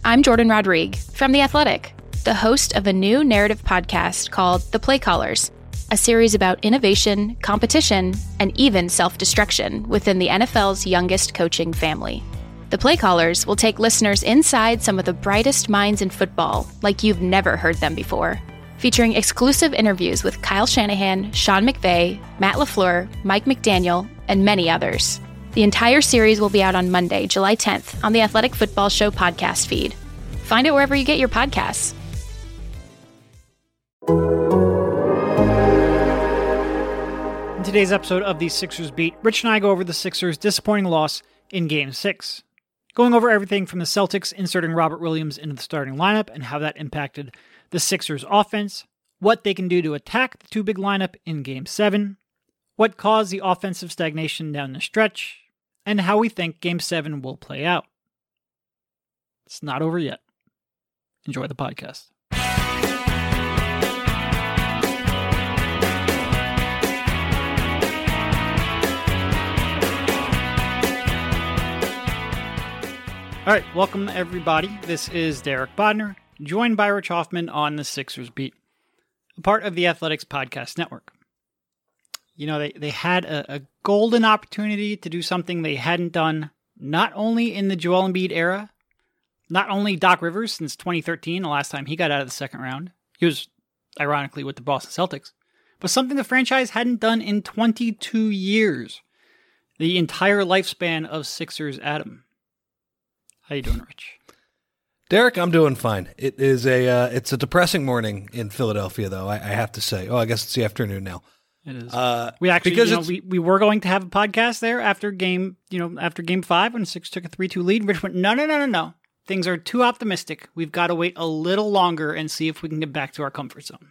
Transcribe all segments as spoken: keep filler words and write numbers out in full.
I'm Jordan Rodrigue from The Athletic, the host of a new narrative podcast called The Play Callers, a series about innovation, competition, and even self-destruction within the N F L's youngest coaching family. The Play Callers will take listeners inside some of the brightest minds in football, like you've never heard them before, featuring exclusive interviews with Kyle Shanahan, Sean McVay, Matt LaFleur, Mike McDaniel, and many others. The entire series will be out on Monday, July tenth, on the Athletic Football Show podcast feed. Find it wherever you get your podcasts. In today's episode of the Sixers Beat, Rich and I go over the Sixers' disappointing loss in Game six. Going over everything from the Celtics inserting Robert Williams into the starting lineup and how that impacted the Sixers' offense, what they can do to attack the two-big lineup in Game seven, what caused the offensive stagnation down the stretch, and how we think Game seven will play out. It's not over yet. Enjoy the podcast. All right, welcome everybody. This is Derek Bodner, joined by Rich Hoffman on the Sixers Beat, a part of the Athletics Podcast Network. You know, they, they had a, a golden opportunity to do something they hadn't done, not only in the Joel Embiid era, not only Doc Rivers since twenty thirteen, the last time he got out of the second round. He was, ironically, with the Boston Celtics, but something the franchise hadn't done in twenty-two years. The entire lifespan of Sixers Adam. How you doing, Rich? Derek, I'm doing fine. It is a uh, it's a depressing morning in Philadelphia, though, I, I have to say. Oh, I guess it's the afternoon now. It is. Uh, we actually, because you know, we, we were going to have a podcast there after game, you know, after game five when Six took a three two lead. Rich went, no, no, no, no, no. Things are too optimistic. We've got to wait a little longer and see if we can get back to our comfort zone.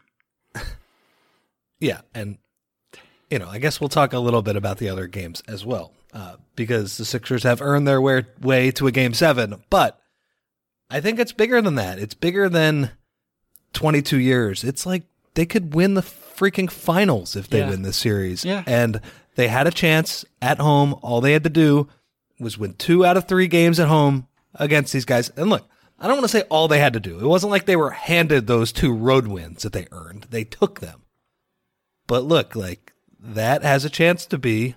Yeah, and, you know, I guess we'll talk a little bit about the other games as well, uh, because the Sixers have earned their way, way to a game seven, but I think it's bigger than that. It's bigger than twenty-two years. It's like they could win the freaking finals if they Yeah. win this series. Yeah. And they had a chance at home. All they had to do was win two out of three games at home against these guys. And look, I don't want to say all they had to do. It wasn't like they were handed those two road wins that they earned. They took them. But look, like, that has a chance to be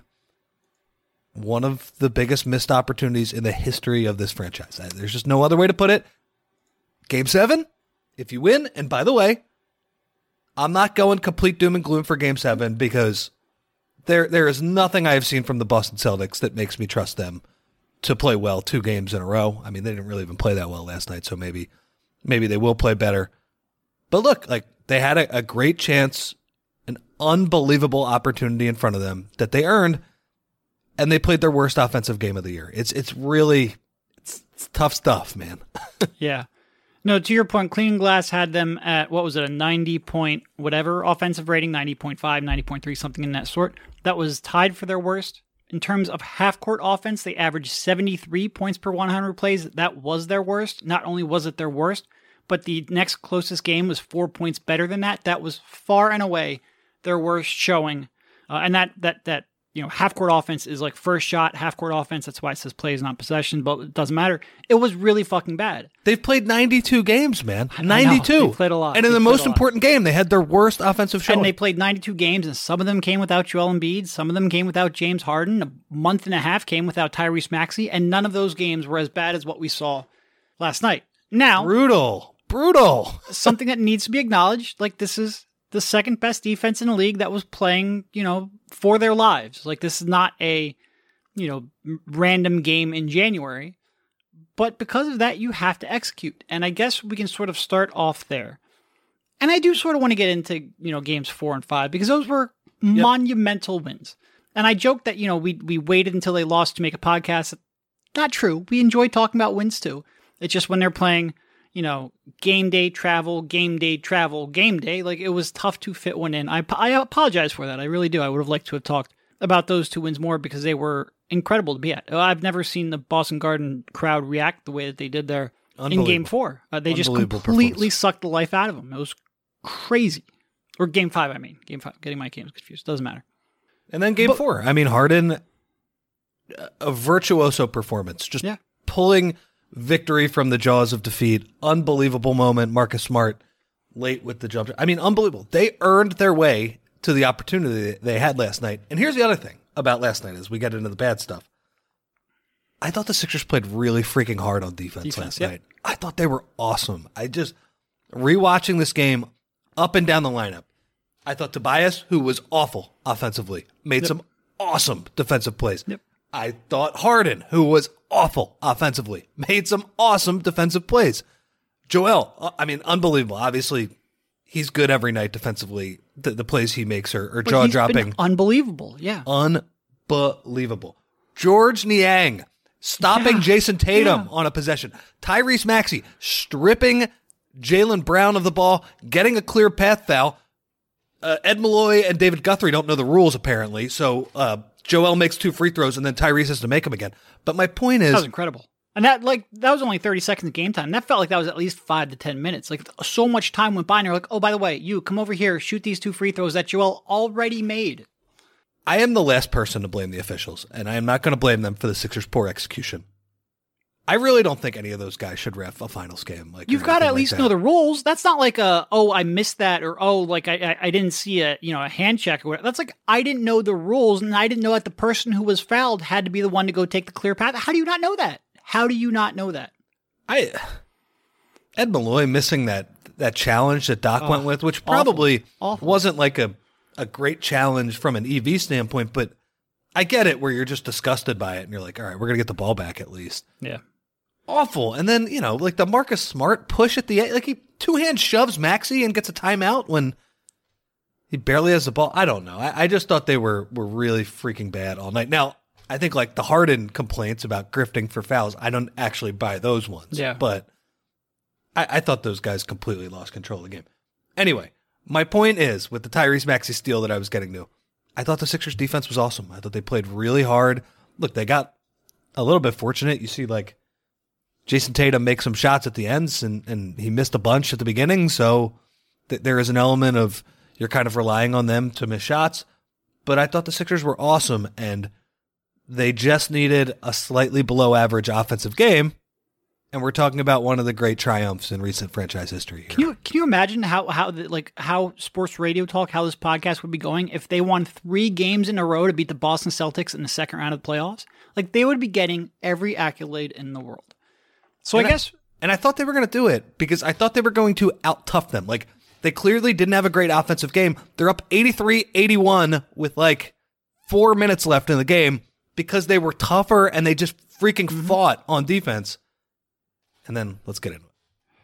one of the biggest missed opportunities in the history of this franchise. There's just no other way to put it. Game seven, if you win, and by the way, I'm not going complete doom and gloom for Game seven because there there is nothing I have seen from the Boston Celtics that makes me trust them to play well two games in a row. I mean, they didn't really even play that well last night, so maybe maybe they will play better. But look, like, they had a, a great chance, an unbelievable opportunity in front of them that they earned, and they played their worst offensive game of the year. It's it's really it's, it's tough stuff, man. Yeah. No, to your point, Clean Glass had them at, what was it, a ninety point whatever offensive rating, ninety point five, ninety point three, something in that sort. That was tied for their worst. In terms of half-court offense, they averaged seventy-three points per one hundred plays. That was their worst. Not only was it their worst, but the next closest game was four points better than that. That was far and away their worst showing. Uh, and that, that, that, you know, half-court offense is like first shot, half-court offense. That's why it says plays, not possession, but it doesn't matter. It was really fucking bad. They've played ninety-two games, man. I know. ninety-two. They played a lot. And in They the played most a lot. important game, they had their worst offensive showing. And they played ninety-two games, and some of them came without Joel Embiid. Some of them came without James Harden. A month and a half came without Tyrese Maxey, and none of those games were as bad as what we saw last night. Now, Brutal. Brutal. something that needs to be acknowledged, like, this is the second best defense in the league that was playing, you know, for their lives. Like, this is not a, you know, random game in January. But because of that, you have to execute. And I guess we can sort of start off there. And I do sort of want to get into, you know, games four and five, because those were Yep. monumental wins. And I joked that, you know, we we waited until they lost to make a podcast. Not true. We enjoy talking about wins too. It's just when they're playing, you know, game day travel, game day travel, game day, like, it was tough to fit one in. I, I apologize for that. I really do. I would have liked to have talked about those two wins more because they were incredible to be at. I've never seen the Boston Garden crowd react the way that they did there in game four. Uh, they just completely sucked the life out of them. It was crazy. Or game five, I mean. Game five. Getting my games confused. Doesn't matter. And then game But- four. I mean, Harden, a virtuoso performance. Just Yeah. pulling victory from the jaws of defeat. Unbelievable moment. Marcus Smart late with the jump. I mean, unbelievable. They earned their way to the opportunity they had last night. And here's the other thing about last night as we get into the bad stuff. I thought the Sixers played really freaking hard on defense, defense last yep. night. I thought they were awesome. I just, rewatching this game up and down the lineup, I thought Tobias, who was awful offensively, made yep. some awesome defensive plays. Yep. I thought Harden, who was awful offensively, made some awesome defensive plays. Joel, I mean, unbelievable. Obviously, he's good every night defensively. The, the plays he makes are, are jaw-dropping. Unbelievable, yeah. Unbelievable. George Niang stopping yeah. Jason Tatum yeah. on a possession. Tyrese Maxey stripping Jaylen Brown of the ball, getting a clear path foul. Uh, Ed Malloy and David Guthrie don't know the rules, apparently, so uh, Joel makes two free throws, and then Tyrese has to make them again. But my point is... That was incredible. And that like that was only thirty seconds of game time. That felt like that was at least five to ten minutes. Like so much time went by and you're like, oh, by the way, you come over here, shoot these two free throws that Joel already made. I am the last person to blame the officials, and I am not going to blame them for the Sixers' poor execution. I really don't think any of those guys should ref a finals game. Like You've got to at like least that. know the rules. That's not like a, oh, I missed that, or oh, like I, I I didn't see a you know a hand check or whatever. That's like I didn't know the rules, and I didn't know that the person who was fouled had to be the one to go take the clear path. How do you not know that? How do you not know that? I Ed Malloy missing that that challenge that Doc oh, went with, which probably awful, awful. wasn't like a, a great challenge from an E V standpoint, but I get it where you're just disgusted by it and you're like, all right, we're going to get the ball back at least. Yeah. Awful. And then, you know, like the Marcus Smart push at the end, like he two-hand shoves Maxey and gets a timeout when he barely has the ball. I don't know. I, I just thought they were were really freaking bad all night. Now, I think like the Harden complaints about grifting for fouls, I don't actually buy those ones. Yeah. But I, I thought those guys completely lost control of the game. Anyway, my point is, with the Tyrese Maxey steal that I was getting to, I thought the Sixers defense was awesome. I thought they played really hard. Look, they got a little bit fortunate. You see like Jason Tatum make some shots at the ends, and, and he missed a bunch at the beginning, so th- there is an element of you're kind of relying on them to miss shots. But I thought the Sixers were awesome, and they just needed a slightly below average offensive game, and we're talking about one of the great triumphs in recent franchise history here. Can you can you imagine how how the, like how sports radio talk, how this podcast would be going if they won three games in a row to beat the Boston Celtics in the second round of the playoffs? Like they would be getting every accolade in the world. So and I guess, I, and I thought they were going to do it because I thought they were going to out-tough them. Like they clearly didn't have a great offensive game. They're up eighty-three eighty-one with like four minutes left in the game because they were tougher and they just freaking mm-hmm. fought on defense. And then let's get into it.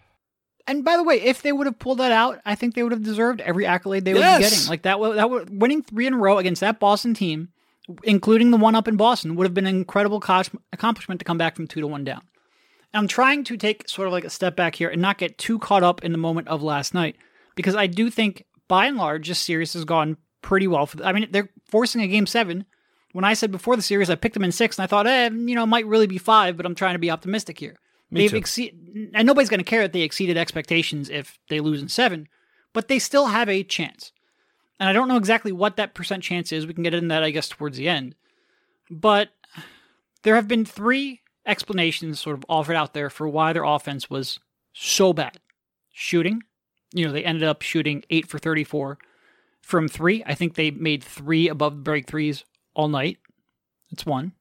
And by the way, if they would have pulled that out, I think they would have deserved every accolade they would yes. be getting. Like that, that would, winning three in a row against that Boston team, including the one up in Boston, would have been an incredible co- accomplishment to come back from two to one down. And I'm trying to take sort of like a step back here and not get too caught up in the moment of last night, because I do think, by and large, this series has gone pretty well. For the, I mean, they're forcing a game seven. When I said before the series, I picked them in six, and I thought, eh, you know, it might really be five, but I'm trying to be optimistic here. Me They've exceed, and nobody's going to care that they exceeded expectations if they lose in seven, but they still have a chance. And I don't know exactly what that percent chance is. We can get into that, I guess, towards the end. But there have been three explanations sort of offered out there for why their offense was so bad. Shooting. You know, they ended up shooting eight for thirty-four from three. I think they made three above break threes all night. That's one.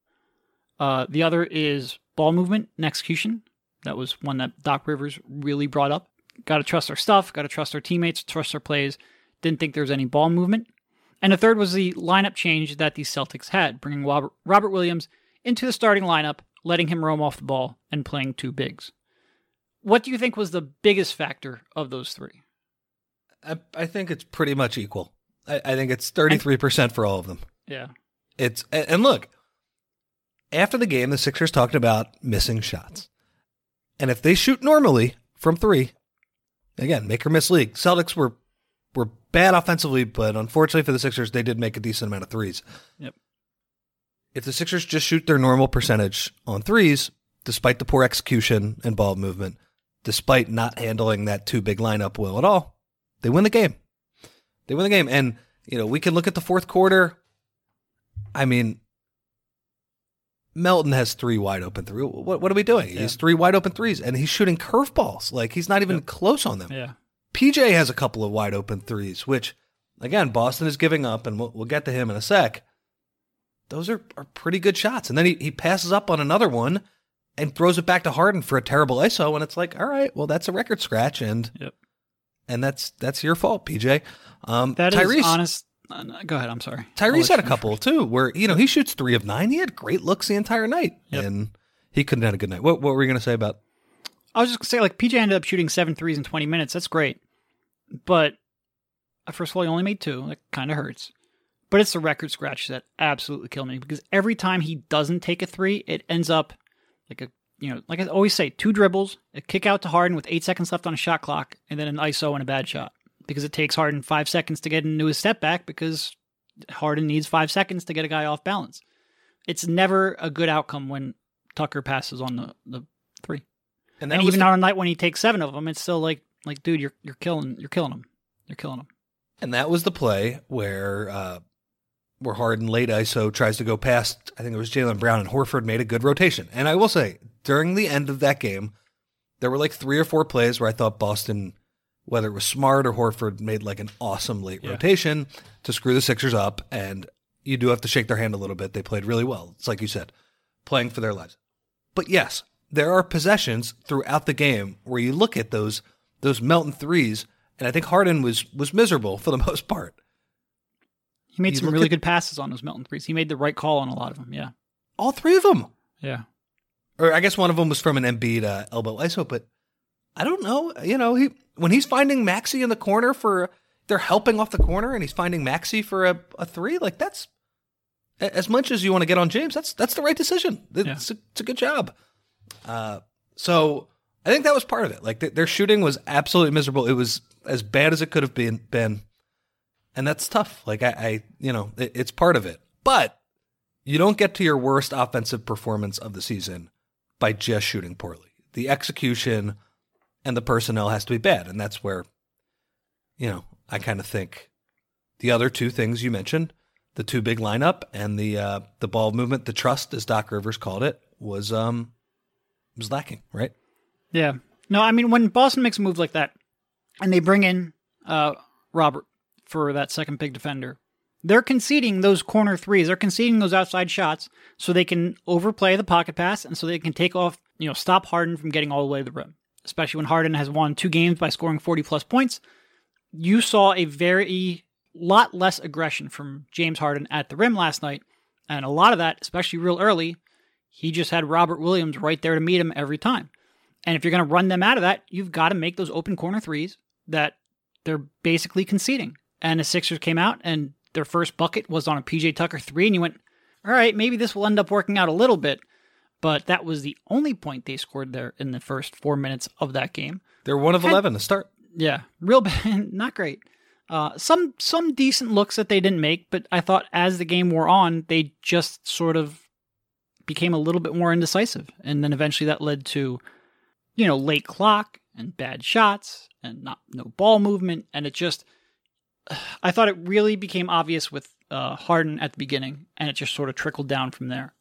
Uh, the other is ball movement and execution. That was one that Doc Rivers really brought up. Got to trust our stuff. Got to trust our teammates. Trust our plays. Didn't think there was any ball movement. And the third was the lineup change that the Celtics had, bringing Robert, Robert Williams into the starting lineup, letting him roam off the ball, and playing two bigs. What do you think was the biggest factor of those three? I, I think it's pretty much equal. I, I think it's thirty-three percent for all of them. Yeah. It's and look, after the game, the Sixers talked about missing shots. And if they shoot normally from three, again, make or miss league. Celtics were were bad offensively, but unfortunately for the Sixers, they did make a decent amount of threes. Yep. If the Sixers just shoot their normal percentage on threes, despite the poor execution and ball movement, despite not handling that two big lineup well at all, they win the game. They win the game. And, you know, we can look at the fourth quarter. I mean, Melton has three wide open threes. What, what are we doing? Yeah. He has three wide open threes, and he's shooting curveballs. Like, he's not even yep. close on them. Yeah. P J has a couple of wide open threes, which, again, Boston is giving up, and we'll, we'll get to him in a sec. Those are, are pretty good shots. And then he, he passes up on another one and throws it back to Harden for a terrible I S O, and it's like, all right, well, that's a record scratch, and yep. and that's that's your fault, P J. Um, that Tyrese, is honest. Uh, go ahead, I'm sorry. Tyrese had a couple, too, where, you know, he shoots three of nine. He had great looks the entire night, yep. and he couldn't have a good night. What, what were you going to say about? I was just going to say, like, P J ended up shooting seven threes in twenty minutes. That's great. But, first of all, he only made two. That kind of hurts. But it's the record scratch that absolutely killed me, because every time he doesn't take a three, it ends up like a, you know, like I always say, two dribbles, a kick out to Harden with eight seconds left on a shot clock, and then an I S O and a bad shot. Because it takes Harden five seconds to get into his step back, because Harden needs five seconds to get a guy off balance. It's never a good outcome when Tucker passes on the, the three. And, and even the, on a night when he takes seven of them, it's still like, like, dude, you're you're killing you're killing him. You're killing him. And that was the play where uh, where Harden late I S O tries to go past, I think it was Jaylen Brown, and Horford made a good rotation. And I will say, during the end of that game, there were like three or four plays where I thought Boston, whether it was Smart or Horford, made like an awesome late yeah. rotation to screw the Sixers up. And you do have to shake their hand a little bit. They played really well. It's like you said, playing for their lives. But yes, there are possessions throughout the game where you look at those those Melton threes, and I think Harden was was miserable for the most part. He made you some really at, good passes on those Melton threes. He made the right call on a lot of them, yeah. All three of them. Yeah. Or I guess one of them was from an Embiid uh, elbow I S O, but I don't know. You know, he when he's finding Maxey in the corner for, they're helping off the corner, and he's finding Maxey for a, a three, like that's, as much as you want to get on James, that's that's the right decision. It's, yeah. a, it's a good job. Uh, so I think that was part of it. Like th- their shooting was absolutely miserable. It was as bad as it could have been, been. And that's tough. Like I, I you know, it, it's part of it. But you don't get to your worst offensive performance of the season by just shooting poorly. The execution and the personnel has to be bad. And that's where, you know, I kind of think the other two things you mentioned, the two big lineup and the uh, the ball movement, the trust, as Doc Rivers called it, was um was lacking, right? Yeah. No, I mean, when Boston makes a move like that and they bring in uh, Robert for that second big defender, they're conceding those corner threes. They're conceding those outside shots so they can overplay the pocket pass and so they can take off, you know, stop Harden from getting all the way to the rim, especially when Harden has won two games by scoring forty plus points. You saw a very lot less aggression from James Harden at the rim last night. And a lot of that, especially real early, he just had Robert Williams right there to meet him every time. And if you're going to run them out of that, you've got to make those open corner threes that they're basically conceding. And the Sixers came out and their first bucket was on a P J Tucker three. And you went, all right, maybe this will end up working out a little bit. But that was the only point they scored there in the first four minutes of that game. They're one of eleven to start. Yeah, real bad, not great. Uh, some some decent looks that they didn't make, but I thought as the game wore on, they just sort of became a little bit more indecisive. And then eventually that led to, you know, late clock and bad shots and not no ball movement. And it just, I thought it really became obvious with uh, Harden at the beginning, and it just sort of trickled down from there.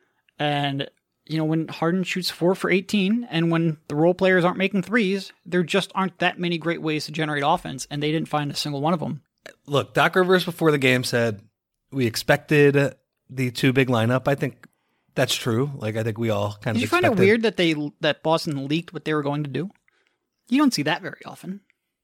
And you know, when Harden shoots four for eighteen and when the role players aren't making threes, there just aren't that many great ways to generate offense, and they didn't find a single one of them. Look, Doc Rivers before the game said we expected the two big lineup. I think that's true. Like, I think we all kind Did of you expected. find it weird that they that Boston leaked what they were going to do? You don't see that very often.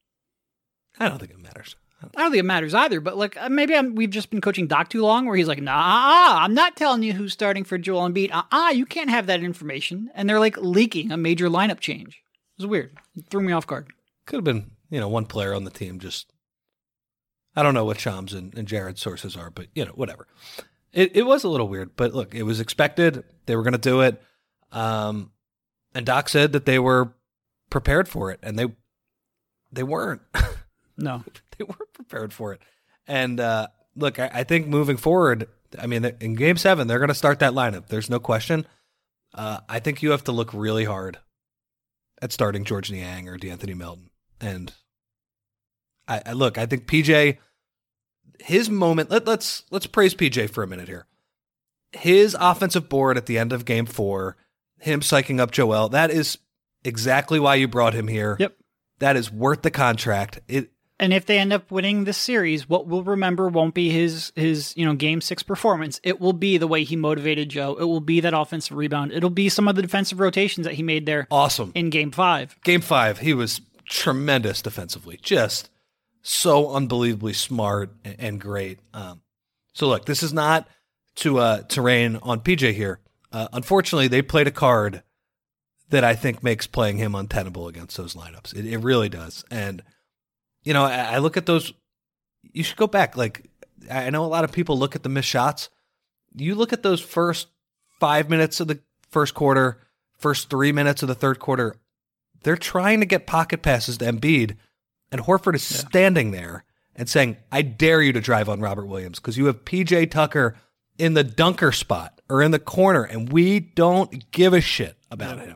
I don't think it matters. I don't think it matters either, but like maybe I'm, we've just been coaching Doc too long where he's like, nah, I'm not telling you who's starting for Joel Embiid. Ah, you can't have that information. And they're like leaking a major lineup change. It was weird. It threw me off guard. Could have been, you know, one player on the team just, I don't know what Shams and, and Jared's sources are, but, you know, whatever. It it was a little weird, but look, it was expected. They were going to do it. Um, and Doc said that they were prepared for it, and they they weren't. No. They weren't prepared for it. And uh, look, I, I think moving forward, I mean, in game seven, they're going to start that lineup. There's no question. Uh, I think you have to look really hard at starting George Niang or DeAnthony Melton. And I, I look, I think P J, his moment, let, let's let's praise P J for a minute here. his offensive board at the end of game four, him psyching up Joel, that is exactly why you brought him here. Yep. That is worth the contract. It And if they end up winning this series, what we'll remember won't be his his you know game six performance. It will be the way he motivated Joe. It will be that offensive rebound. It'll be some of the defensive rotations that he made there. Awesome. In game five. Game five, he was tremendous defensively. Just so unbelievably smart and great. Um, so look, this is not to uh, to rain on P J here. Uh, unfortunately, they played a card that I think makes playing him untenable against those lineups. It, it really does. And you know, I look at those, you should go back. Like, I know a lot of people look at the missed shots. You look at those first five minutes of the first quarter, first three minutes of the third quarter, they're trying to get pocket passes to Embiid, and Horford is yeah. standing there and saying, I dare you to drive on Robert Williams because you have P J Tucker in the dunker spot or in the corner, and we don't give a shit about yeah. him.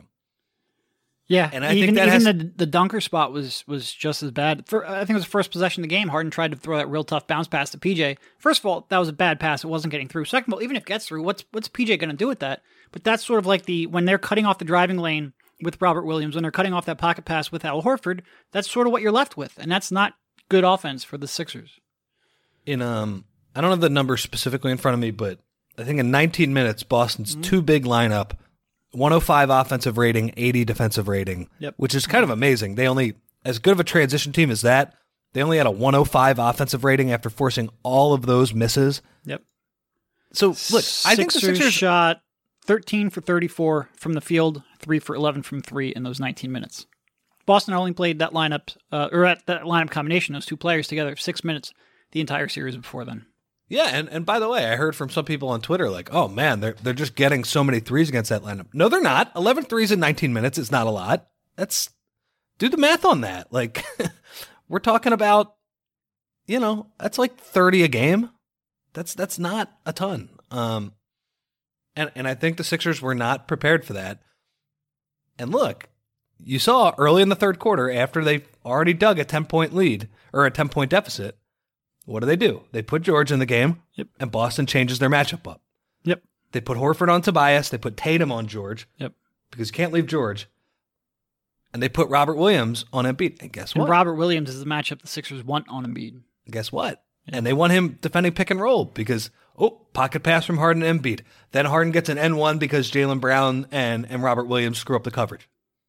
Yeah, and I even, think that even has, the the dunker spot was was just as bad. For, I think it was the first possession of the game. Harden tried to throw that real tough bounce pass to P J. First of all, that was a bad pass. It wasn't getting through. Second of all, even if it gets through, what's what's P J going to do with that? But that's sort of like the when they're cutting off the driving lane with Robert Williams, when they're cutting off that pocket pass with Al Horford, that's sort of what you're left with, and that's not good offense for the Sixers. In um, I don't have the number specifically in front of me, but I think in nineteen minutes, Boston's mm-hmm. two big lineup. one oh five offensive rating, eighty defensive rating, yep. which is kind of amazing. They only, as good of a transition team as that, they only had a one oh five offensive rating after forcing all of those misses. Yep. So, look, I think the Sixers shot thirteen for thirty-four from the field, three for eleven from three in those nineteen minutes. Boston only played that lineup, uh, or at that lineup combination, those two players together, six minutes the entire series before then. Yeah, and, and by the way, I heard from some people on Twitter like, oh man, they're they're just getting so many threes against that lineup. No, they're not. eleven threes in nineteen minutes is not a lot. That's, do the math on that. Like, we're talking about, you know, that's like thirty a game. That's that's not a ton. Um, and, and I think the Sixers were not prepared for that. And look, you saw early in the third quarter, after they already dug a ten-point lead, or a ten-point deficit, what do they do? They put George in the game, yep. and Boston changes their matchup up. Yep. They put Horford on Tobias. They put Tatum on George. Yep. Because you can't leave George. And they put Robert Williams on Embiid. And guess what? And Robert Williams is the matchup the Sixers want on Embiid. Guess what? Yeah. And they want him defending pick and roll because, oh, pocket pass from Harden and Embiid. Then Harden gets an N one because Jaylen Brown and, and Robert Williams screw up the coverage.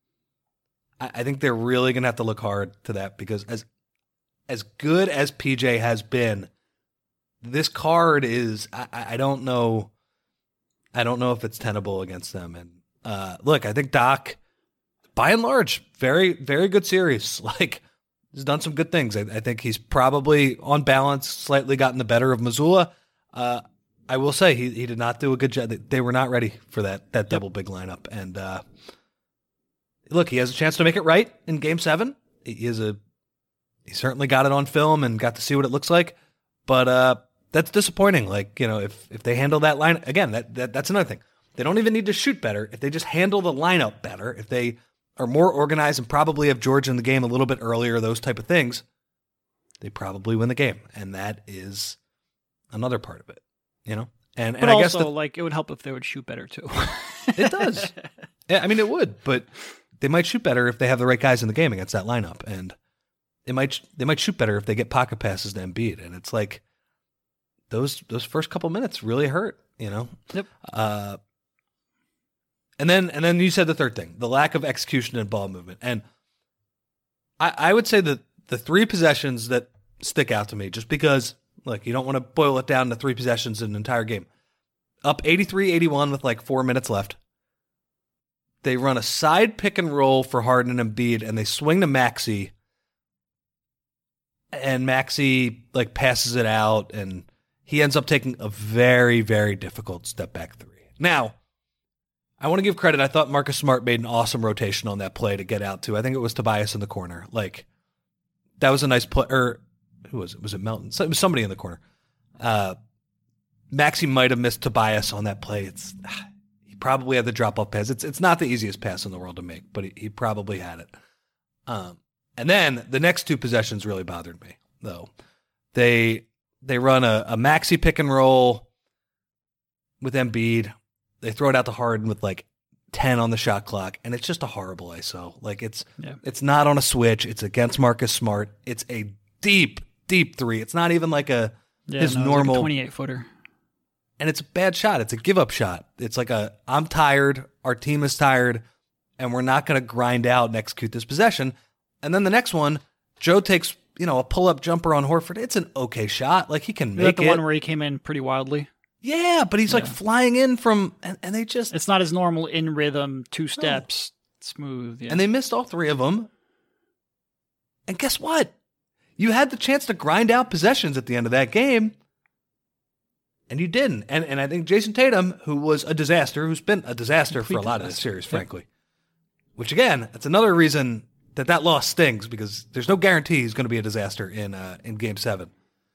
I, I think they're really going to have to look hard to that because as As good as P J has been, this card is, I, I don't know, I don't know if it's tenable against them. And uh, look, I think Doc, by and large, very, very good series. Like, he's done some good things. I, I think he's probably, on balance, slightly gotten the better of Mazzulla. Uh, I will say, he, he did not do a good job. They, they were not ready for that, that double big lineup. And uh, look, he has a chance to make it right in game seven. He is a He certainly got it on film and got to see what it looks like, but uh, that's disappointing. Like, you know, if if they handle that line again, that, that that's another thing. They don't even need to shoot better. If they just handle the lineup better, if they are more organized and probably have George in the game a little bit earlier, those type of things, they probably win the game. And that is another part of it, you know. And but and I also, guess the, like, it would help if they would shoot better too. It does. Yeah, I mean, it would, but they might shoot better if they have the right guys in the game against that lineup, and They might they might shoot better if they get pocket passes to Embiid, and it's like those those first couple minutes really hurt, you know. Yep. Uh, and then and then you said the third thing, the lack of execution and ball movement, and I, I would say that the three possessions that stick out to me, just because, look, you don't want to boil it down to three possessions in an entire game. Up eighty-three eighty-one with like four minutes left. They run a side pick and roll for Harden and Embiid, and they swing to Maxey. And Maxey like passes it out, and he ends up taking a very, very difficult step back three. Now, I want to give credit. I thought Marcus Smart made an awesome rotation on that play to get out to. I think it was Tobias in the corner. Like, that was a nice play. Or who was it? Was it Melton? So, it was somebody in the corner. Uh, Maxey might have missed Tobias on that play. It's he probably had the drop off pass. It's it's not the easiest pass in the world to make, but he, he probably had it. Um. And then the next two possessions really bothered me, though. They they run a, a Maxey pick and roll, with Embiid. They throw it out to Harden with like ten on the shot clock, and it's just a horrible I S O. Like it's yeah. it's not on a switch. It's against Marcus Smart. It's a deep, deep three. It's not even like a yeah, his no, normal like twenty-eight footer. And it's a bad shot. It's a give up shot. It's like a I'm tired. Our team is tired, and we're not going to grind out and execute this possession. And then the next one, Joe takes you know a pull up jumper on Horford. It's an okay shot. Like he can Is make that the it. one where he came in pretty wildly? Yeah, but he's like Yeah. flying in from, and, and they just, It's not his normal in rhythm, two steps, smooth. Yeah. and they missed all three of them. And guess what? You had the chance to grind out possessions at the end of that game, and you didn't. And and I think Jason Tatum, who was a disaster, who's been a disaster Complete for a lot of this disaster. series, Yep. frankly. Which again, that's another reason that that loss stings, because there's no guarantee he's going to be a disaster in uh, in Game Seven.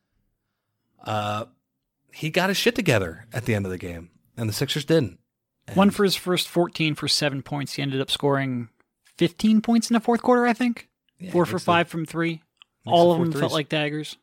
Uh. He got his shit together at the end of the game, and the Sixers didn't. And One for his first fourteen for seven points. He ended up scoring fifteen points in the fourth quarter, I think. yeah, Four he for makes five the- from three. makes All the of four them threes. felt like daggers.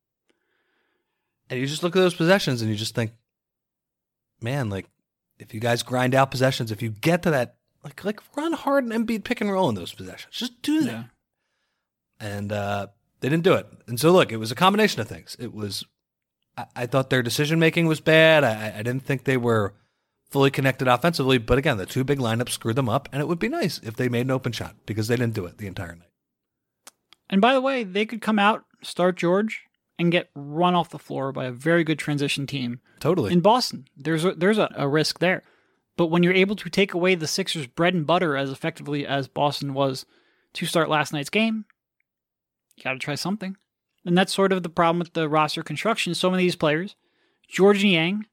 And you just look at those possessions, and you just think, man, like, if you guys grind out possessions, if you get to that, like, like run hard and Embiid pick and roll in those possessions. Just do that. Yeah. And uh, they didn't do it. And so, look, it was a combination of things. It was, I, I thought their decision-making was bad. I, I didn't think they were fully connected offensively. But again, the two big lineups screwed them up. And it would be nice if they made an open shot, because they didn't do it the entire night. And by the way, they could come out, start George, and get run off the floor by a very good transition team Totally. in Boston. There's a, there's a, a risk there. But when you're able to take away the Sixers' bread and butter as effectively as Boston was to start last night's game, you got to try something. And that's sort of the problem with the roster construction. So many of these players, George Niang,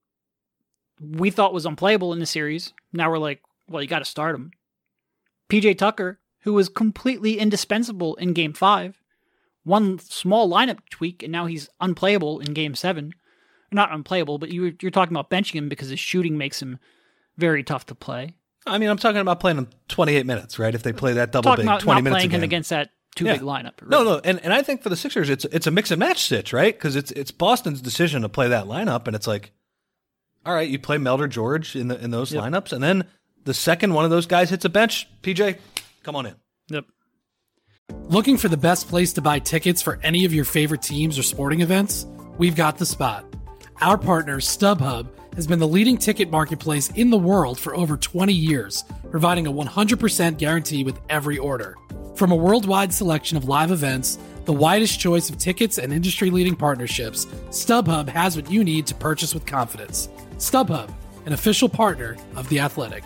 we thought was unplayable in the series. Now we're like, well, you got to start him. P J Tucker, who was completely indispensable in Game five, one small lineup tweak, and now he's unplayable in Game seven. Not unplayable, but you, you're talking about benching him because his shooting makes him very tough to play. I mean, I'm talking about playing them twenty-eight minutes, right? If they play that double Talking big, about twenty not minutes playing again. him against that too Yeah. big lineup. No, really. no, and, and I think for the Sixers, it's it's a mix and match stitch, right? Because it's it's Boston's decision to play that lineup, and it's like, all right, you play Melder George in the in those Yep. lineups, and then the second one of those guys hits a bench, P J, come on in. Yep. Looking for the best place to buy tickets for any of your favorite teams or sporting events? We've got the spot. Our partner, StubHub, has been the leading ticket marketplace in the world for over twenty years, providing a one hundred percent guarantee with every order. From a worldwide selection of live events, the widest choice of tickets, and industry-leading partnerships, StubHub has what you need to purchase with confidence. StubHub, an official partner of The Athletic.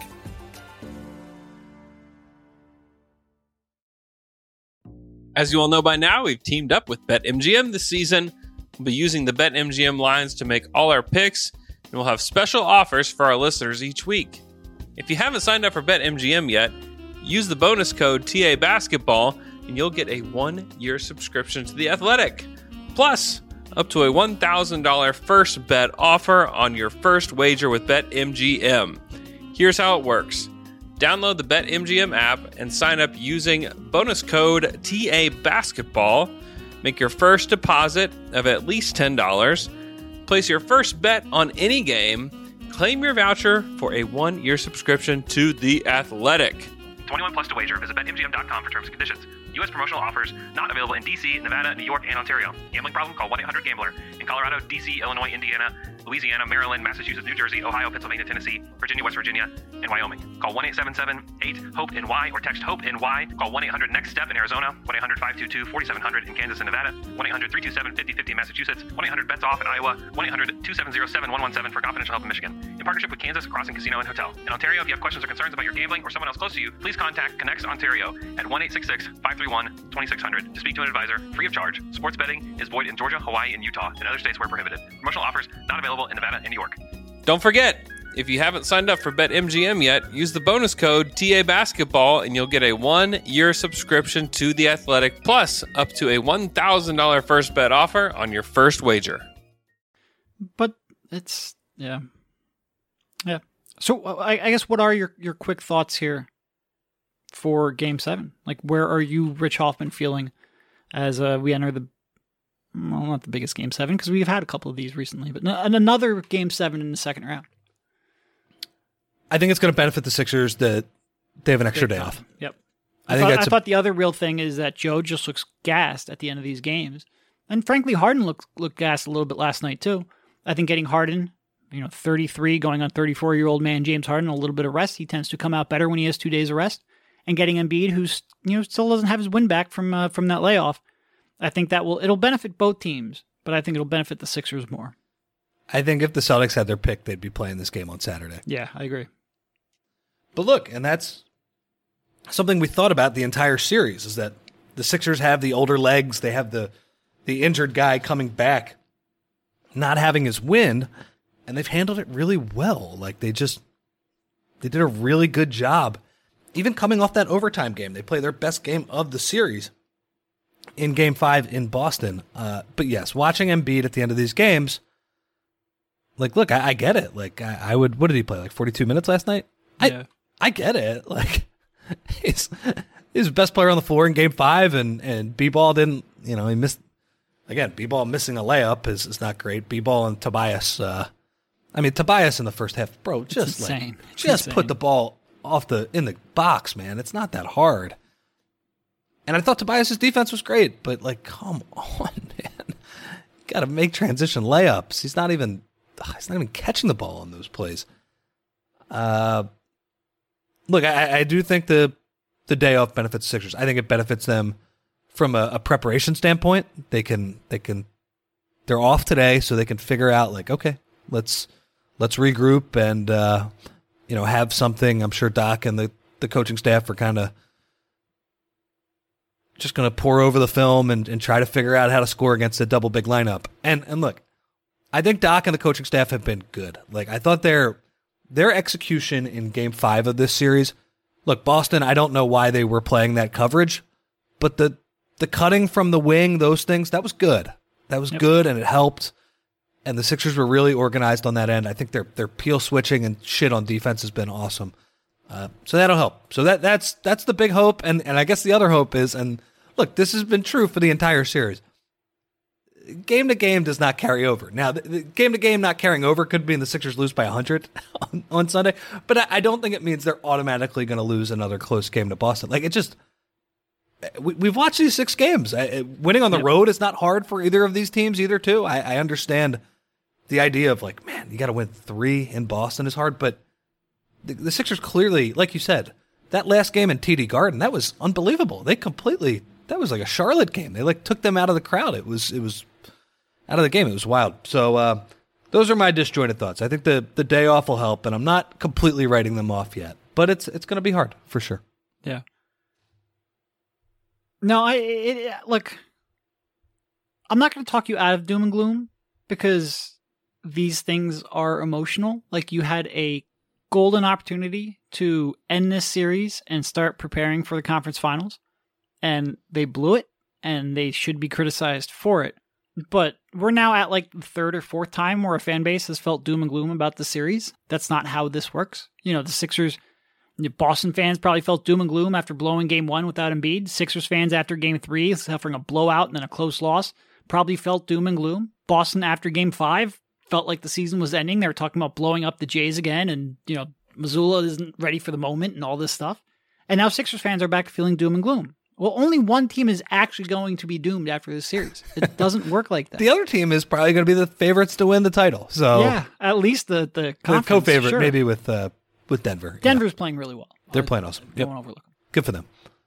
As you all know by now, we've teamed up with BetMGM this season. We'll be using the BetMGM lines to make all our picks, and we'll have special offers for our listeners each week. If you haven't signed up for BetMGM yet, use the bonus code T A Basketball, and you'll get a one-year subscription to The Athletic. Plus, up to a one thousand dollars first bet offer on your first wager with BetMGM. Here's how it works. Download the BetMGM app and sign up using bonus code T A Basketball. Make your first deposit of at least ten dollars. Place your first bet on any game. Claim your voucher for a one-year subscription to The Athletic. twenty-one plus to wager. Visit Bet M G M dot com for terms and conditions. U S promotional offers not available in D C, Nevada, New York, and Ontario. Gambling problem? Call one eight hundred gambler. In Colorado, D C, Illinois, Indiana, Louisiana, Maryland, Massachusetts, New Jersey, Ohio, Pennsylvania, Tennessee, Virginia, West Virginia, and Wyoming. Call one eight seven seven eight hope N Y or text HOPE-NY. Call one eight hundred next step in Arizona. one eight hundred five two two four seven zero zero in Kansas and Nevada. one eight hundred three two seven five zero five zero in Massachusetts. one eight hundred bets off in Iowa. one eight hundred two seven zero seven one one seven for confidential help in Michigan. In partnership with Kansas Crossing Casino and Hotel. In Ontario, if you have questions or concerns about your gambling or someone else close to you, please contact Connects Ontario at one eight six six five three one two six zero zero to speak to an advisor free of charge. Sports betting is void in Georgia, Hawaii, and Utah, and other states where prohibited. Promotional offers not available in Nevada and New York. Don't forget, if you haven't signed up for BetMGM yet, use the bonus code T A Basketball and you'll get a one-year subscription to The Athletic, plus up to a one thousand dollars first bet offer on your first wager. But it's, yeah. Yeah. So I, I guess what are your, your quick thoughts here for Game seven? Like, where are you, Rich Hoffman, feeling as uh, we enter the, well, not the biggest Game seven, because we've had a couple of these recently, but n- another Game seven in the second round? I think it's going to benefit the Sixers that they have an extra Big day time. off. Yep. I, I, think thought, that's I a- thought the other real thing is that Joe just looks gassed at the end of these games. And frankly, Harden looked, looked gassed a little bit last night too. I think getting Harden, you know, thirty-three, going on thirty-four-year-old man James Harden, a little bit of rest. He tends to come out better when he has two days of rest. And getting Embiid, who's, you know, still doesn't have his win back from uh, from that layoff. I think that will it'll benefit both teams, but I think it'll benefit the Sixers more. I think if the Celtics had their pick, they'd be playing this game on Saturday. Yeah, I agree. But look, and that's something we thought about the entire series, is that the Sixers have the older legs. They have the the injured guy coming back, not having his wind, and they've handled it really well. Like they just, they did a really good job. Even coming off that overtime game, they play their best game of the series in game five in Boston. Uh, but yes, watching Embiid at the end of these games, like, look, I, I get it. Like I, I would, what did he play? Like forty-two minutes last night? Yeah. I, I get it. Like he's, he's the best player on the floor in game five, and, and B-Ball didn't, you know, he missed, again, B-Ball missing a layup is, is not great. B-Ball and Tobias, uh, I mean, Tobias in the first half, bro, just It's like, insane. It's just insane. put the ball off the, in the box, man. It's not that hard. And I thought Tobias's defense was great, but like, come on, man. Got to make transition layups. He's not even, he's not even catching the ball on those plays. Uh, look, I, I do think the the day off benefits the Sixers. I think it benefits them from a, a preparation standpoint. They can they can they're off today, so they can figure out like, okay, let's let's regroup and uh, you know, have something. I'm sure Doc and the, the coaching staff are kind of just going to pour over the film and, and try to figure out how to score against a double big lineup. And and look, I think Doc and the coaching staff have been good. Like I thought their their execution in game five of this series, look, Boston, I don't know why they were playing that coverage, but the the cutting from the wing, those things, that was good. That was Yep. good, and it helped. And the Sixers were really organized on that end. I think their their peel switching and shit on defense has been awesome. Uh, so that'll help. So that that's that's the big hope. And, and I guess the other hope is, and look, this has been true for the entire series. Game to game does not carry over. Now, the, the game to game not carrying over could mean the Sixers lose by one hundred on, on Sunday, but I, I don't think it means they're automatically going to lose another close game to Boston. Like, it just, we, we've watched these six games. I, winning on the Yep. road is not hard for either of these teams, either, too. I, I understand the idea of, like, man, you got to win three in Boston is hard, but the, the Sixers clearly, like you said, that last game in T D Garden, that was unbelievable. They completely, that was like a Charlotte game. They, like, took them out of the crowd. It was, it was, out of the game. It was wild. So uh, those are my disjointed thoughts. I think the, the day off will help, and I'm not completely writing them off yet. But it's it's going to be hard, for sure. Yeah. No, I it, it, look. I'm not going to talk you out of doom and gloom because these things are emotional. Like you had a golden opportunity to end this series and start preparing for the conference finals, and they blew it, and they should be criticized for it. But we're now at like the third or fourth time where a fan base has felt doom and gloom about the series. That's not how this works. You know, the Sixers, the Boston fans probably felt doom and gloom after blowing game one without Embiid. Sixers fans after game three, suffering a blowout and then a close loss, probably felt doom and gloom. Boston after game five felt like the season was ending. They were talking about blowing up the Jays again and, you know, Missoula isn't ready for the moment and all this stuff. And now Sixers fans are back to feeling doom and gloom. Well, only one team is actually going to be doomed after this series. It doesn't work like that. The other team is probably going to be the favorites to win the title. So yeah, at least the the, the conference, co-favorite, sure. maybe with uh, with Denver. Yeah. Denver's playing really well. They're I playing awesome. Don't Yep. overlook them. Good for them.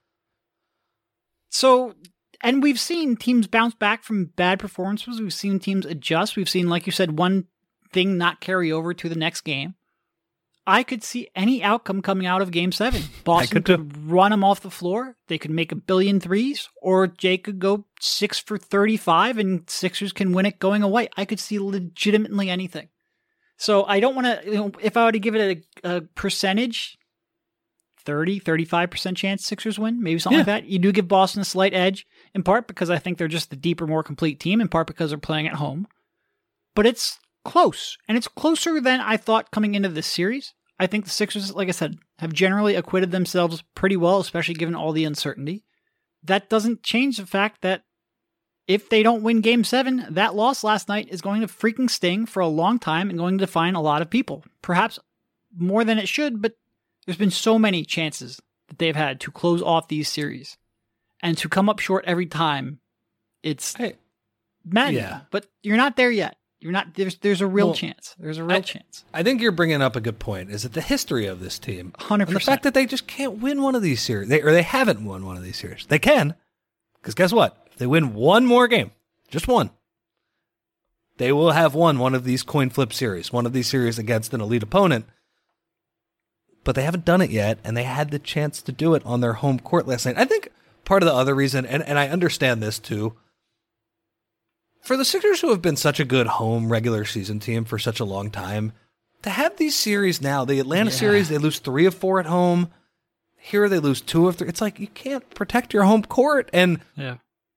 So, and we've seen teams bounce back from bad performances. We've seen teams adjust. We've seen, like you said, one thing not carry over to the next game. I could see any outcome coming out of Game seven. Boston could too. could run them off the floor. They could make a billion threes, or Jay could go six for thirty-five and Sixers can win it going away. I could see legitimately anything. So I don't want to, you know, if I were to give it a, a percentage, thirty, thirty-five percent chance Sixers win, maybe something Yeah. like that. You do give Boston a slight edge, in part because I think they're just the deeper, more complete team, in part because they're playing at home. But it's close, and it's closer than I thought coming into this series. I think the Sixers, like I said, have generally acquitted themselves pretty well, especially given all the uncertainty. That doesn't change the fact that if they don't win Game seven, that loss last night is going to freaking sting for a long time and going to define a lot of people. Perhaps more than it should, but there's been so many chances that they've had to close off these series and to come up short every time. It's Hey, maddening, yeah. but you're not there yet. You're not, there's, there's a real Well, chance. There's a real I- chance. I think you're bringing up a good point. Is that the history of this team, one hundred and the percent. fact that they just can't win one of these series, they, or they haven't won one of these series. They can, because guess what? If they win one more game, just one, they will have won one of these coin flip series, one of these series against an elite opponent. But they haven't done it yet, and they had the chance to do it on their home court last night. I think part of the other reason, and, and I understand this too, for the Sixers who have been such a good home regular season team for such a long time, to have these series now, the Atlanta Yeah. series, they lose three of four at home. Here they lose two of three. It's like you can't protect your home court. And Yeah.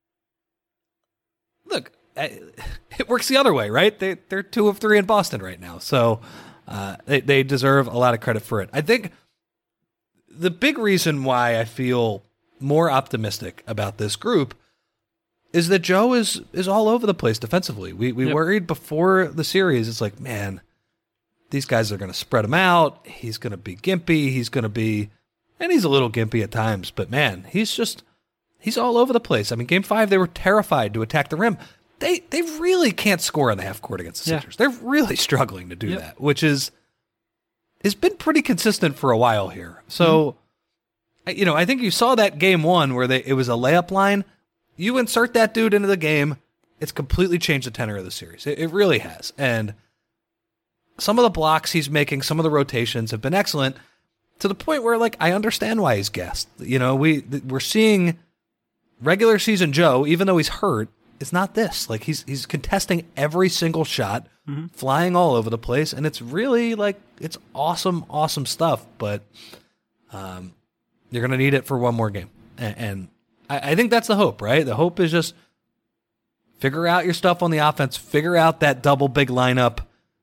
look, I- it works the other way, right? They, they're two of three in Boston right now. So uh, they, they deserve a lot of credit for it. I think the big reason why I feel more optimistic about this group is that Joe is is all over the place defensively. We we Yep. worried before the series. It's like, man, these guys are going to spread him out. He's going to be gimpy. He's going to be, and he's a little gimpy at times. But man, he's just he's all over the place. I mean, Game Five, they were terrified to attack the rim. They they really can't score on the half court against the Yeah. Sixers. They're really struggling to do Yep. that, which is has been pretty consistent for a while here. So, I- you know, I think you saw that Game One where they it was a layup line. You insert that dude into the game, it's completely changed the tenor of the series. It, it really has. And some of the blocks he's making, some of the rotations have been excellent to the point where, like, I understand why he's guessed. You know, we, th- we're seeing regular season Joe, even though he's hurt, it's not this. Like, he's, he's contesting every single shot, Mm-hmm. flying all over the place. And it's really, like, it's awesome, awesome stuff. But um, you're going to need it for one more game. And, and I, I think that's the hope, right? The hope is just figure out your stuff on the offense, figure out that double big lineup.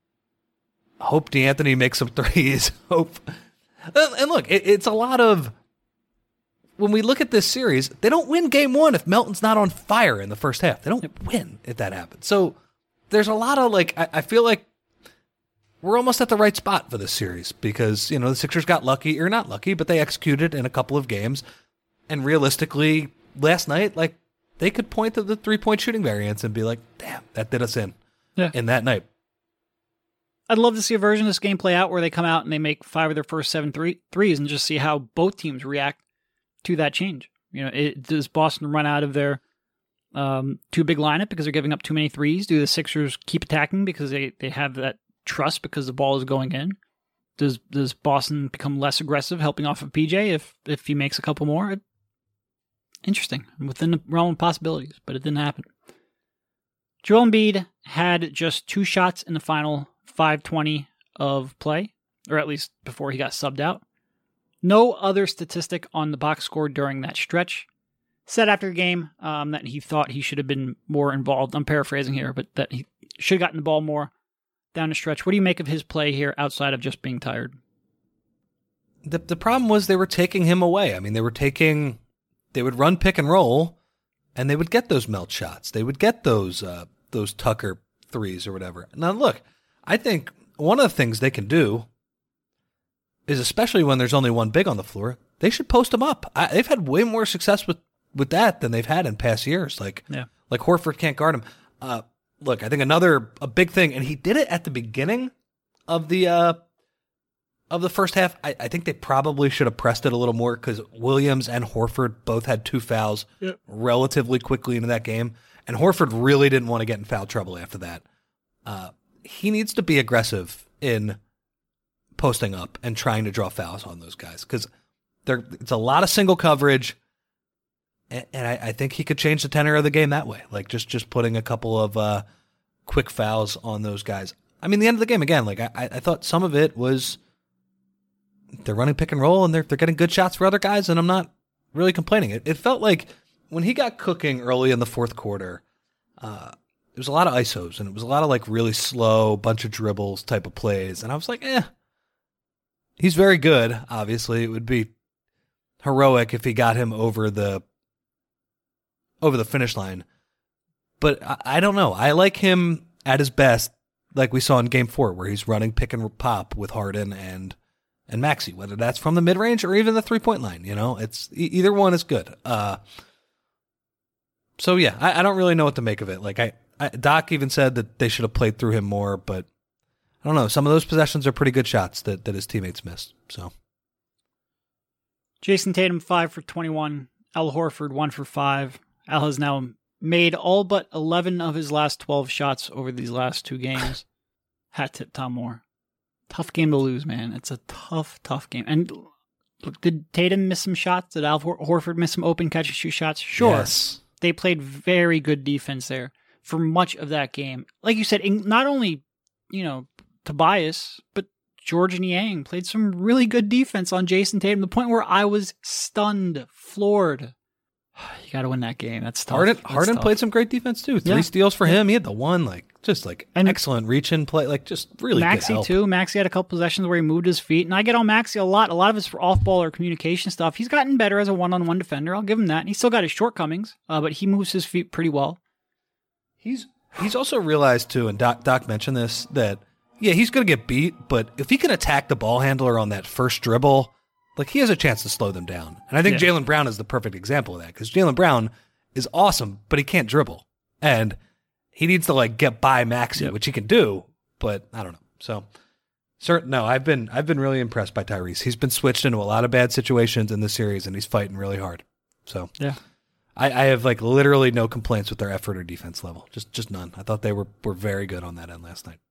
Hope D'Anthony makes some threes. Hope, and look, it, it's a lot of when we look at this series, they don't win game one if Melton's not on fire in the first half. They don't win if that happens. So there's a lot of like, I, I feel like we're almost at the right spot for this series because, you know, the Sixers got lucky or not lucky, but they executed in a couple of games. And realistically, last night, like, they could point to the three-point shooting variance and be like, damn, that did us in Yeah. in that night. I'd love to see a version of this game play out where they come out and they make five of their first seven three, threes and just see how both teams react to that change. You know, it, does Boston run out of their um, too big lineup because they're giving up too many threes? Do the Sixers keep attacking because they, they have that trust because the ball is going in? Does does Boston become less aggressive, helping off of P J if if he makes a couple more? Interesting, within the realm of possibilities, but it didn't happen. Joel Embiid had just two shots in the final five twenty of play, or at least before he got subbed out. No other statistic on the box score during that stretch. Said after the game um, that he thought he should have been more involved. I'm paraphrasing here, but that he should have gotten the ball more down the stretch. What do you make of his play here outside of just being tired? The the problem was they were taking him away. I mean, they were taking, they would run pick and roll, and they would get those melt shots. They would get those uh, those Tucker threes or whatever. Now, look, I think one of the things they can do is, especially when there's only one big on the floor, they should post him up. I, they've had way more success with, with that than they've had in past years. Like, Yeah. like Horford can't guard him. Uh, look, I think another a big thing, and he did it at the beginning of the uh, of the first half. I, I think they probably should have pressed it a little more because Williams and Horford both had two fouls Yep. relatively quickly into that game, and Horford really didn't want to get in foul trouble after that. Uh, he needs to be aggressive in posting up and trying to draw fouls on those guys because there it's a lot of single coverage, and, and I, I think he could change the tenor of the game that way. Like just just putting a couple of uh, quick fouls on those guys. I mean, the end of the game again. Like I, I thought some of it was they're running pick and roll and they're they're getting good shots for other guys, and I'm not really complaining. It it felt like when he got cooking early in the fourth quarter, uh, there was a lot of I S Os and it was a lot of like really slow bunch of dribbles type of plays, and I was like, eh. He's very good, obviously. It would be heroic if he got him over the over the finish line. But I, I don't know. I like him at his best, like we saw in game four, where he's running pick and pop with Harden and and Maxey, whether that's from the mid-range or even the three-point line. You know, it's e- either one is good. Uh, so, yeah, I, I don't really know what to make of it. Like, I, I Doc even said that they should have played through him more, but I don't know. Some of those possessions are pretty good shots that, that his teammates missed. So, Jason Tatum, five for twenty-one. Al Horford, one for five. Al has now made all but eleven of his last twelve shots over these last two games. Hat tip Tom Moore. Tough game to lose, man. It's a tough, tough game. And look, did Tatum miss some shots? Did Al Hor- Horford miss some open catch and shoot shots? Sure. yes. They played very good defense there for much of that game. Like you said, in, not only, you know, Tobias, but George Niang played some really good defense on Jason Tatum, the point where I was stunned, floored. You got to win that game. That's tough. Harden, That's Harden tough. played some great defense too. Three Yeah. steals for him. He had the one, like, just like And- excellent reach in play, like just really good Maxey help. too. Maxey had a couple possessions where he moved his feet, and I get on Maxey a lot. A lot of it's for off-ball or communication stuff. He's gotten better as a one-on-one defender. I'll give him that. And he's still got his shortcomings, uh, but he moves his feet pretty well. He's he's also realized too, and Doc Doc mentioned this, that yeah, he's going to get beat, but if he can attack the ball handler on that first dribble, like he has a chance to slow them down. And I think Yeah. Jaylen Brown is the perfect example of that, because Jaylen Brown is awesome, but he can't dribble, and he needs to like get by Maxey, Yep. which he can do, but I don't know. So, certain no, I've been I've been really impressed by Tyrese. He's been switched into a lot of bad situations in this series, and he's fighting really hard. So Yeah. I, I have like literally no complaints with their effort or defense level. Just just none. I thought they were, were very good on that end last night.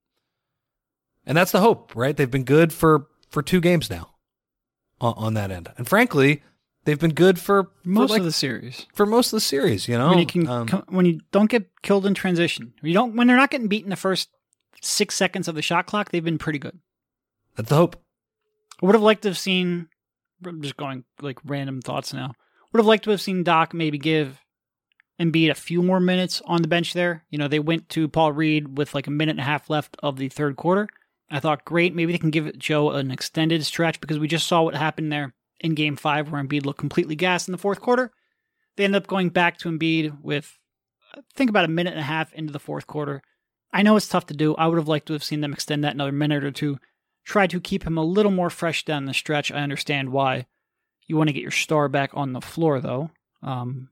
And that's the hope, right? They've been good for, for two games now on, on that end. And frankly, they've been good for, for Most like, of the series. for most of the series, you know? When you can, Um, co- when you don't get killed in transition, when you don't, when they're not getting beat in the first six seconds of the shot clock, they've been pretty good. that's the hope. I would have liked to have seen. I'm just going like random thoughts now. Would have liked to have seen Doc maybe give Embiid a few more minutes on the bench there. You know, they went to Paul Reed with like a minute and a half left of the third quarter. I thought, great, maybe they can give Joe an extended stretch, because we just saw what happened there in game five where Embiid looked completely gassed in the fourth quarter. They ended up going back to Embiid with, I think, about a minute and a half into the fourth quarter. I know it's tough to do. I would have liked to have seen them extend that another minute or two. Try to keep him a little more fresh down the stretch. I understand why you want to get your star back on the floor, though. Um,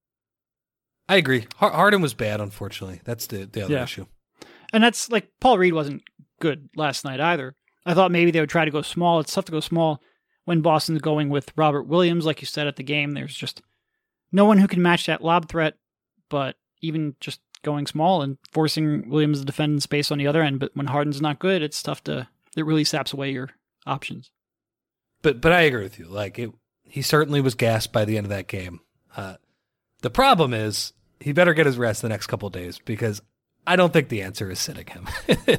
I agree. Har- Harden was bad, unfortunately. That's the, the other Yeah. issue. and that's like Paul Reed wasn't good last night either. I thought maybe they would try to go small. It's tough to go small when Boston's going with Robert Williams, like you said at the game. There's just no one who can match that lob threat, but even just going small and forcing Williams to defend in space on the other end. But when Harden's not good, it's tough to, it really saps away your options. But but I agree with you. Like it, he certainly was gassed by the end of that game. Uh, the problem is he better get his rest the next couple of days, because I don't think the answer is sitting him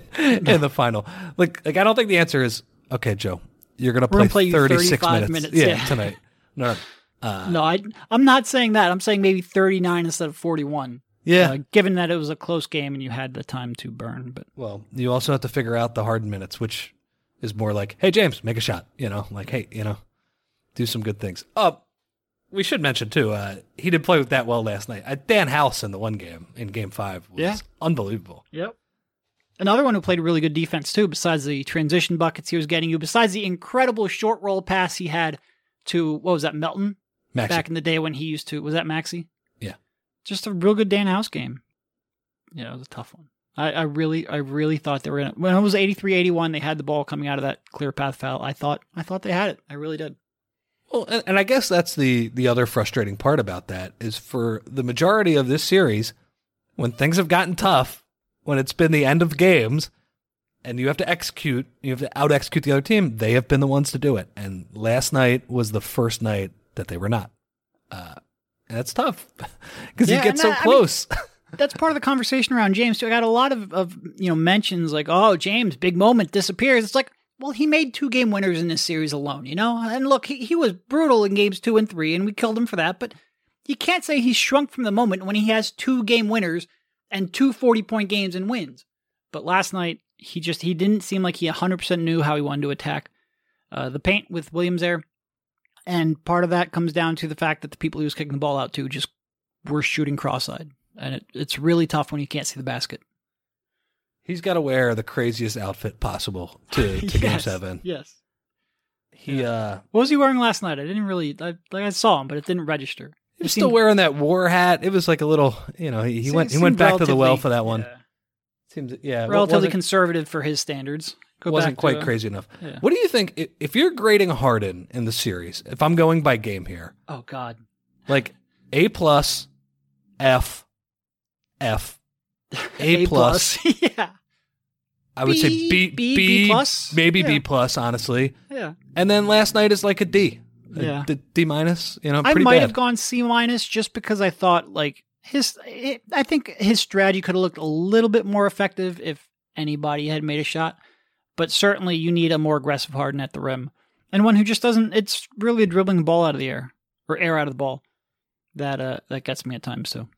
in the final. Like like I don't think the answer is, okay, Joe, you're gonna We're play, gonna play you thirty-six thirty-five minutes, minutes, yeah, yeah. tonight. No, uh, No, I, I'm not saying that. I'm saying maybe thirty-nine instead of forty-one. yeah. Uh, given that it was a close game and you had the time to burn. But Well, you also have to figure out the Harden minutes, which is more like, hey, James, make a shot. You know, like, hey, you know, do some good things. Oh, we should mention, too, uh, he didn't play that well last night. Uh, Dan House in the one game, in game five, was Yeah. unbelievable. Yep. Another one who played really good defense, too, besides the transition buckets he was getting you, besides the incredible short roll pass he had to, what was that, Melton? Maxey. Back in the day when he used to, was that Maxey? Yeah. Just a real good Dan House game. Yeah, it was a tough one. I, I really, I really thought they were gonna, when it was eighty-three eighty-one, they had the ball coming out of that clear path foul. I thought, I thought they had it. I really did. Well, and, and I guess that's the the other frustrating part about that is for the majority of this series, when things have gotten tough, when it's been the end of games, and you have to execute, you have to out execute the other team, they have been the ones to do it. And last night was the first night that they were not. Uh, and that's tough because Yeah, you get and so I- I mean- close. That's part of the conversation around James too. I got a lot of, of you know mentions like, oh, James, big moment, disappears. It's like, well, he made two game winners in this series alone, you know? And look, he, he was brutal in games two and three, and we killed him for that, but you can't say he's shrunk from the moment when he has two game winners and two forty-point games and wins. But last night, he just, he didn't seem like he one hundred percent knew how he wanted to attack uh, the paint with Williams there. And part of that comes down to the fact that the people he was kicking the ball out to just were shooting cross-eyed. And it, it's really tough when you can't see the basket. He's got to wear the craziest outfit possible to, to game Yes, seven. Yes. He uh, What was he wearing last night? I didn't really, I, like I saw him, but it didn't register. he was It still seemed- wearing that war hat. It was like a little, you know, he, he se- went he seemed went back to the well relatively- for that one. yeah, Seems yeah, wa- relatively wasn't- conservative for his standards. Go wasn't back to, quite uh, crazy enough. yeah. What do you think i- if you're grading Harden in the series? If I'm going by game here, Oh, God. like A plus, F, F, A, plus. yeah. I would say B, B, B, B, B plus? maybe Yeah. B plus, honestly. Yeah. And then last night is like a D, A Yeah. D, D minus. You know, I pretty might bad. have gone C minus just because I thought like his, it, I think his strategy could have looked a little bit more effective if anybody had made a shot. But certainly you need a more aggressive Harden at the rim. And one who just doesn't, it's really dribbling the ball out of the air or air out of the ball. That, uh, that gets me at times too.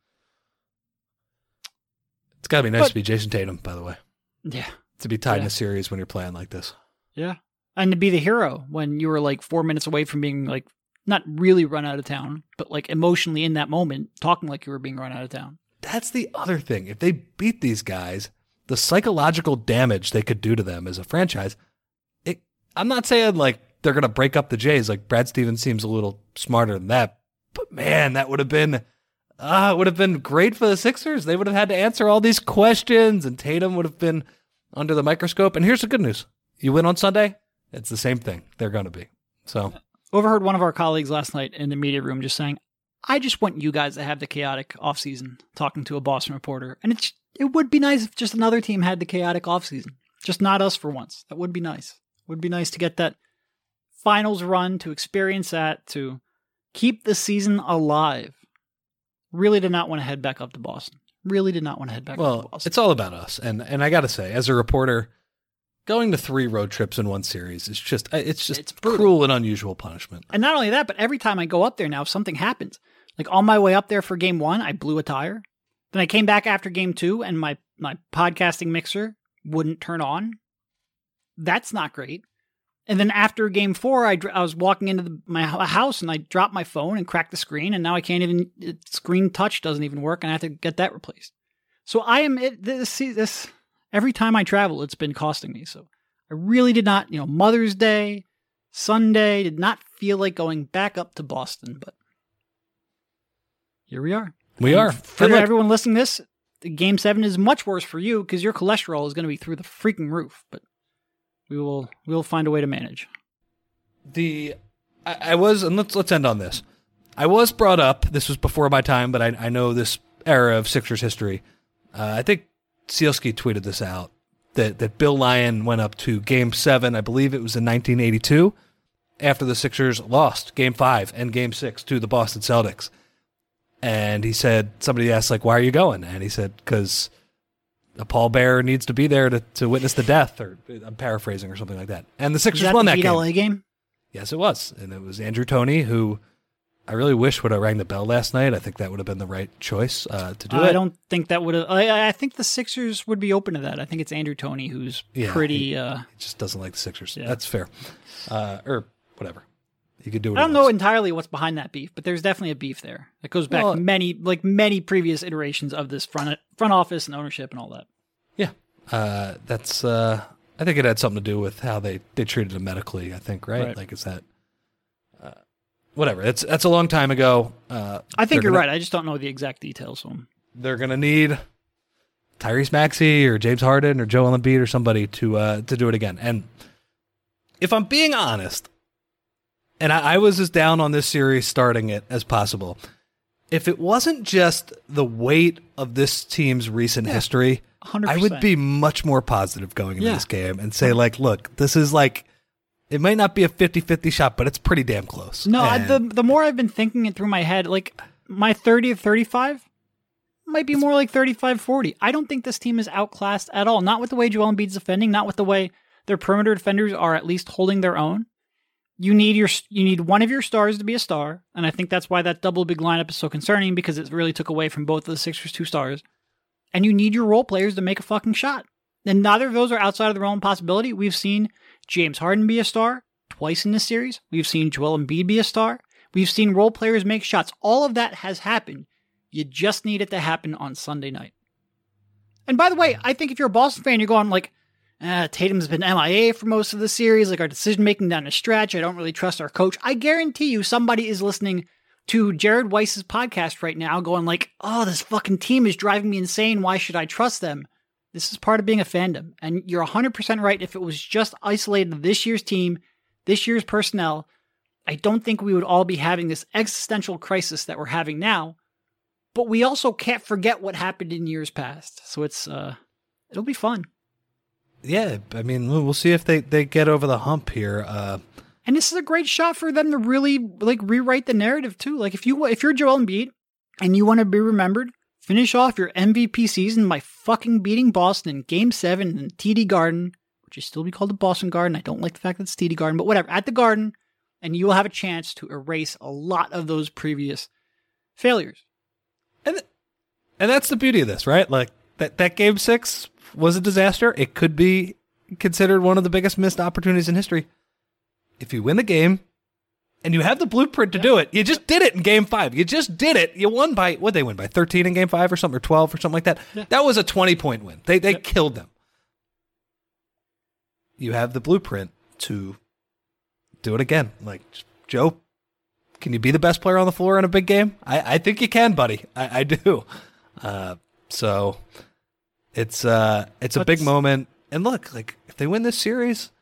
It's got to be nice But- to be Jason Tatum, by the way, Yeah. to be tied in Yeah. a series when you're playing like this. Yeah. And to be the hero when you were like four minutes away from being like, not really run out of town, but like emotionally in that moment, talking like you were being run out of town. That's the other thing. If they beat these guys, the psychological damage they could do to them as a franchise, it, I'm not saying like they're going to break up the Jays. Like Brad Stevens seems a little smarter than that. But man, that would have been, ah, it would have been great for the Sixers. They would have had to answer all these questions, and Tatum would have been under the microscope. And here's the good news. You win on Sunday, it's the same thing. They're going to be. So Overheard one of our colleagues last night in the media room just saying, I just want you guys to have the chaotic offseason, talking to a Boston reporter. And it's it would be nice if just another team had the chaotic offseason. Just not us for once. That would be nice. Would be nice to get that finals run, to experience that, to keep the season alive. Really did not want to head back up to Boston. Really did not want to head back up to well, Boston. it's all about us. And and I got to say, as a reporter, going to three road trips in one series is just it's just It's brutal. cruel and unusual punishment. And not only that, but every time I go up there now, if something happens. Like on my way up there for game one, I blew a tire. Then I came back after game two and my, my podcasting mixer wouldn't turn on. That's not great. And then after game four, I, dr- I was walking into the, my h- house and I dropped my phone and cracked the screen. And now I can't even, it, screen touch doesn't even work. And I have to get that replaced. So I am, it, this, this, every time I travel, it's been costing me. So I really did not, you know, Mother's Day, Sunday, did not feel like going back up to Boston, but here we are. We And are. For And look, everyone listening to this, the game seven is much worse for you because your cholesterol is going to be through the freaking roof, but we will we will find a way to manage. the I, I was, and let's let's end on this. I was brought up. This was before my time, but I, I know this era of Sixers history. Uh, I think Sealski tweeted this out that that Bill Lyon went up to Game Seven. I believe it was in nineteen eighty-two, after the Sixers lost Game Five and Game Six to the Boston Celtics. And he said, somebody asked, like, why are you going? And he said, because a pallbearer needs to be there to, to witness the death, or I'm paraphrasing or something like that. And the Is Sixers that won the that Heat game. L A game? Yes, it was. And it was Andrew Toney, who I really wish would have rang the bell last night. I think that would have been the right choice uh, to do I it. don't think that would have. I, I think the Sixers would be open to that. I think it's Andrew Toney who's Yeah, pretty. he- uh, He just doesn't like the Sixers. Yeah. That's fair. Uh, or whatever. He could do what I don't he know wants. entirely what's behind that beef, but there's definitely a beef there. It goes back Well- many, like many previous iterations of this front front office and ownership and all that. Yeah. Uh, that's, uh, I think it had something to do with how they, they treated him medically, I think, right? Right. Like, is that, uh, whatever. That's, that's a long time ago. Uh, I think they're you're gonna- right. I just don't know the exact details. So. They're going to need Tyrese Maxey or James Harden or Joel Embiid or somebody to uh, to do it again. And if I'm being honest, and I, I was as down on this series starting it as possible, if it wasn't just the weight of this team's recent history, one hundred I percent. would be much more positive going into Yeah. this game and say, like, look, this is like, it might not be a fifty-fifty shot, but it's pretty damn close. No, I, And- the the more I've been thinking it through my head, like my thirty of thirty-five might be more like thirty-five forty. I don't think this team is outclassed at all. Not with the way Joel Embiid's defending, not with the way their perimeter defenders are at least holding their own. You need your you need one of your stars to be a star, and I think that's why that double big lineup is so concerning because it really took away from both of the Sixers' two stars. And you need your role players to make a fucking shot. And neither of those are outside of the realm of possibility. We've seen James Harden be a star twice in this series. We've seen Joel Embiid be a star. We've seen role players make shots. All of that has happened. You just need it to happen on Sunday night. And by the way, I think if you're a Boston fan, you're going like, uh, Tatum's been M I A for most of the series. Like our decision making down the stretch. I don't really trust our coach. I guarantee you somebody is listening to Jared Weiss's podcast right now going like, oh, this fucking team is driving me insane. Why should I trust them? This is part of being a fandom. And you're one hundred percent right. If it was just isolated to this year's team, this year's personnel, I don't think we would all be having this existential crisis that we're having now. But we also can't forget what happened in years past. So it's, uh, it'll be fun. Yeah, I mean, we'll see if they, they get over the hump here. Uh, and this is a great shot for them to really like rewrite the narrative too. Like if you if you're Joel Embiid and you want to be remembered, finish off your M V P season by fucking beating Boston in Game Seven in T D Garden, which should still be called the Boston Garden. I don't like the fact that it's T D Garden, but whatever. At the Garden, and you will have a chance to erase a lot of those previous failures. And th- and that's the beauty of this, right? Like that that Game Six was a disaster. It could be considered one of the biggest missed opportunities in history. If you win the game and you have the blueprint to do it, you just did it in Game Five. You just did it. You won by, what'd they win, by thirteen in Game Five or something, or twelve or something like that? Yeah. That was a twenty-point win. They they yep. killed them. You have the blueprint to do it again. Like, Joe, can you be the best player on the floor in a big game? I, I think you can, buddy. I, I do. Uh, so it's uh, it's a big moment. And look, like if they win this series,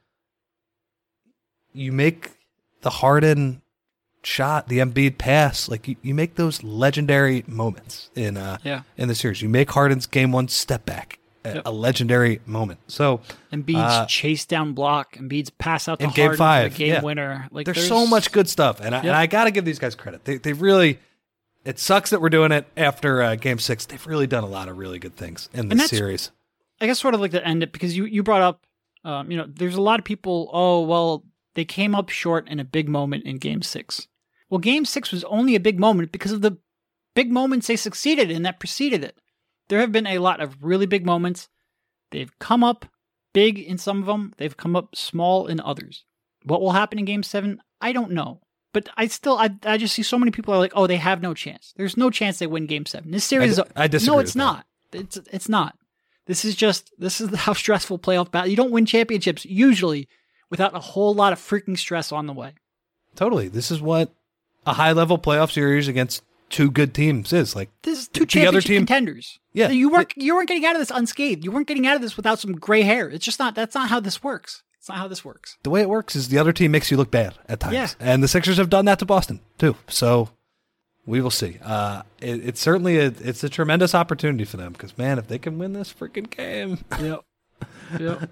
you make the Harden shot, the Embiid pass, like you, you make those legendary moments in uh yeah. in the series. You make Harden's game one step back a, yep. a legendary moment. So Embiid's uh, chase down block, Embiid's pass out to in Harden game five, for the game yeah. winner. Like there's, there's so much good stuff, and I, yep. and I got to give these guys credit. They they really. It sucks that we're doing it after uh, Game Six. They've really done a lot of really good things in this series. I guess sort of like to end it because you you brought up, um, you know, there's a lot of people. Oh well. They came up short in a big moment in Game Six. Well, Game Six was only a big moment because of the big moments they succeeded in that preceded it. There have been a lot of really big moments. They've come up big in some of them. They've come up small in others. What will happen in Game Seven? I don't know. But I still, I, I just see so many people are like, oh, they have no chance. There's no chance they win Game Seven. This series, I, d- I disagree. No, it's with not. That. It's it's not. This is just this is how stressful playoff battle. You don't win championships usually without a whole lot of freaking stress on the way. Totally. This is what a high-level playoff series against two good teams is. Like this is two championship other team, contenders. Yeah. You weren't you weren't getting out of this unscathed. You weren't getting out of this without some gray hair. It's just not that's not how this works. It's not how this works. The way it works is the other team makes you look bad at times. Yeah. And the Sixers have done that to Boston too. So we will see. Uh, it, it's certainly a, it's a tremendous opportunity for them because, man, if they can win this freaking game. Yep. Yep.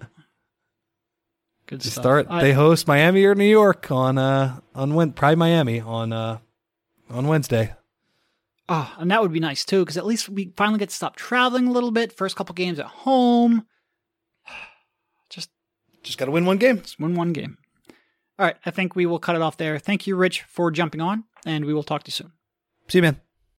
Good to stuff. start, I, they host Miami or New York on uh on when probably Miami on uh on Wednesday. Oh, and that would be nice too, because at least we finally get to stop traveling a little bit. First couple games at home. Just just gotta win one game. Just win one game. All right, I think we will cut it off there. Thank you, Rich, for jumping on, and we will talk to you soon. See you, man.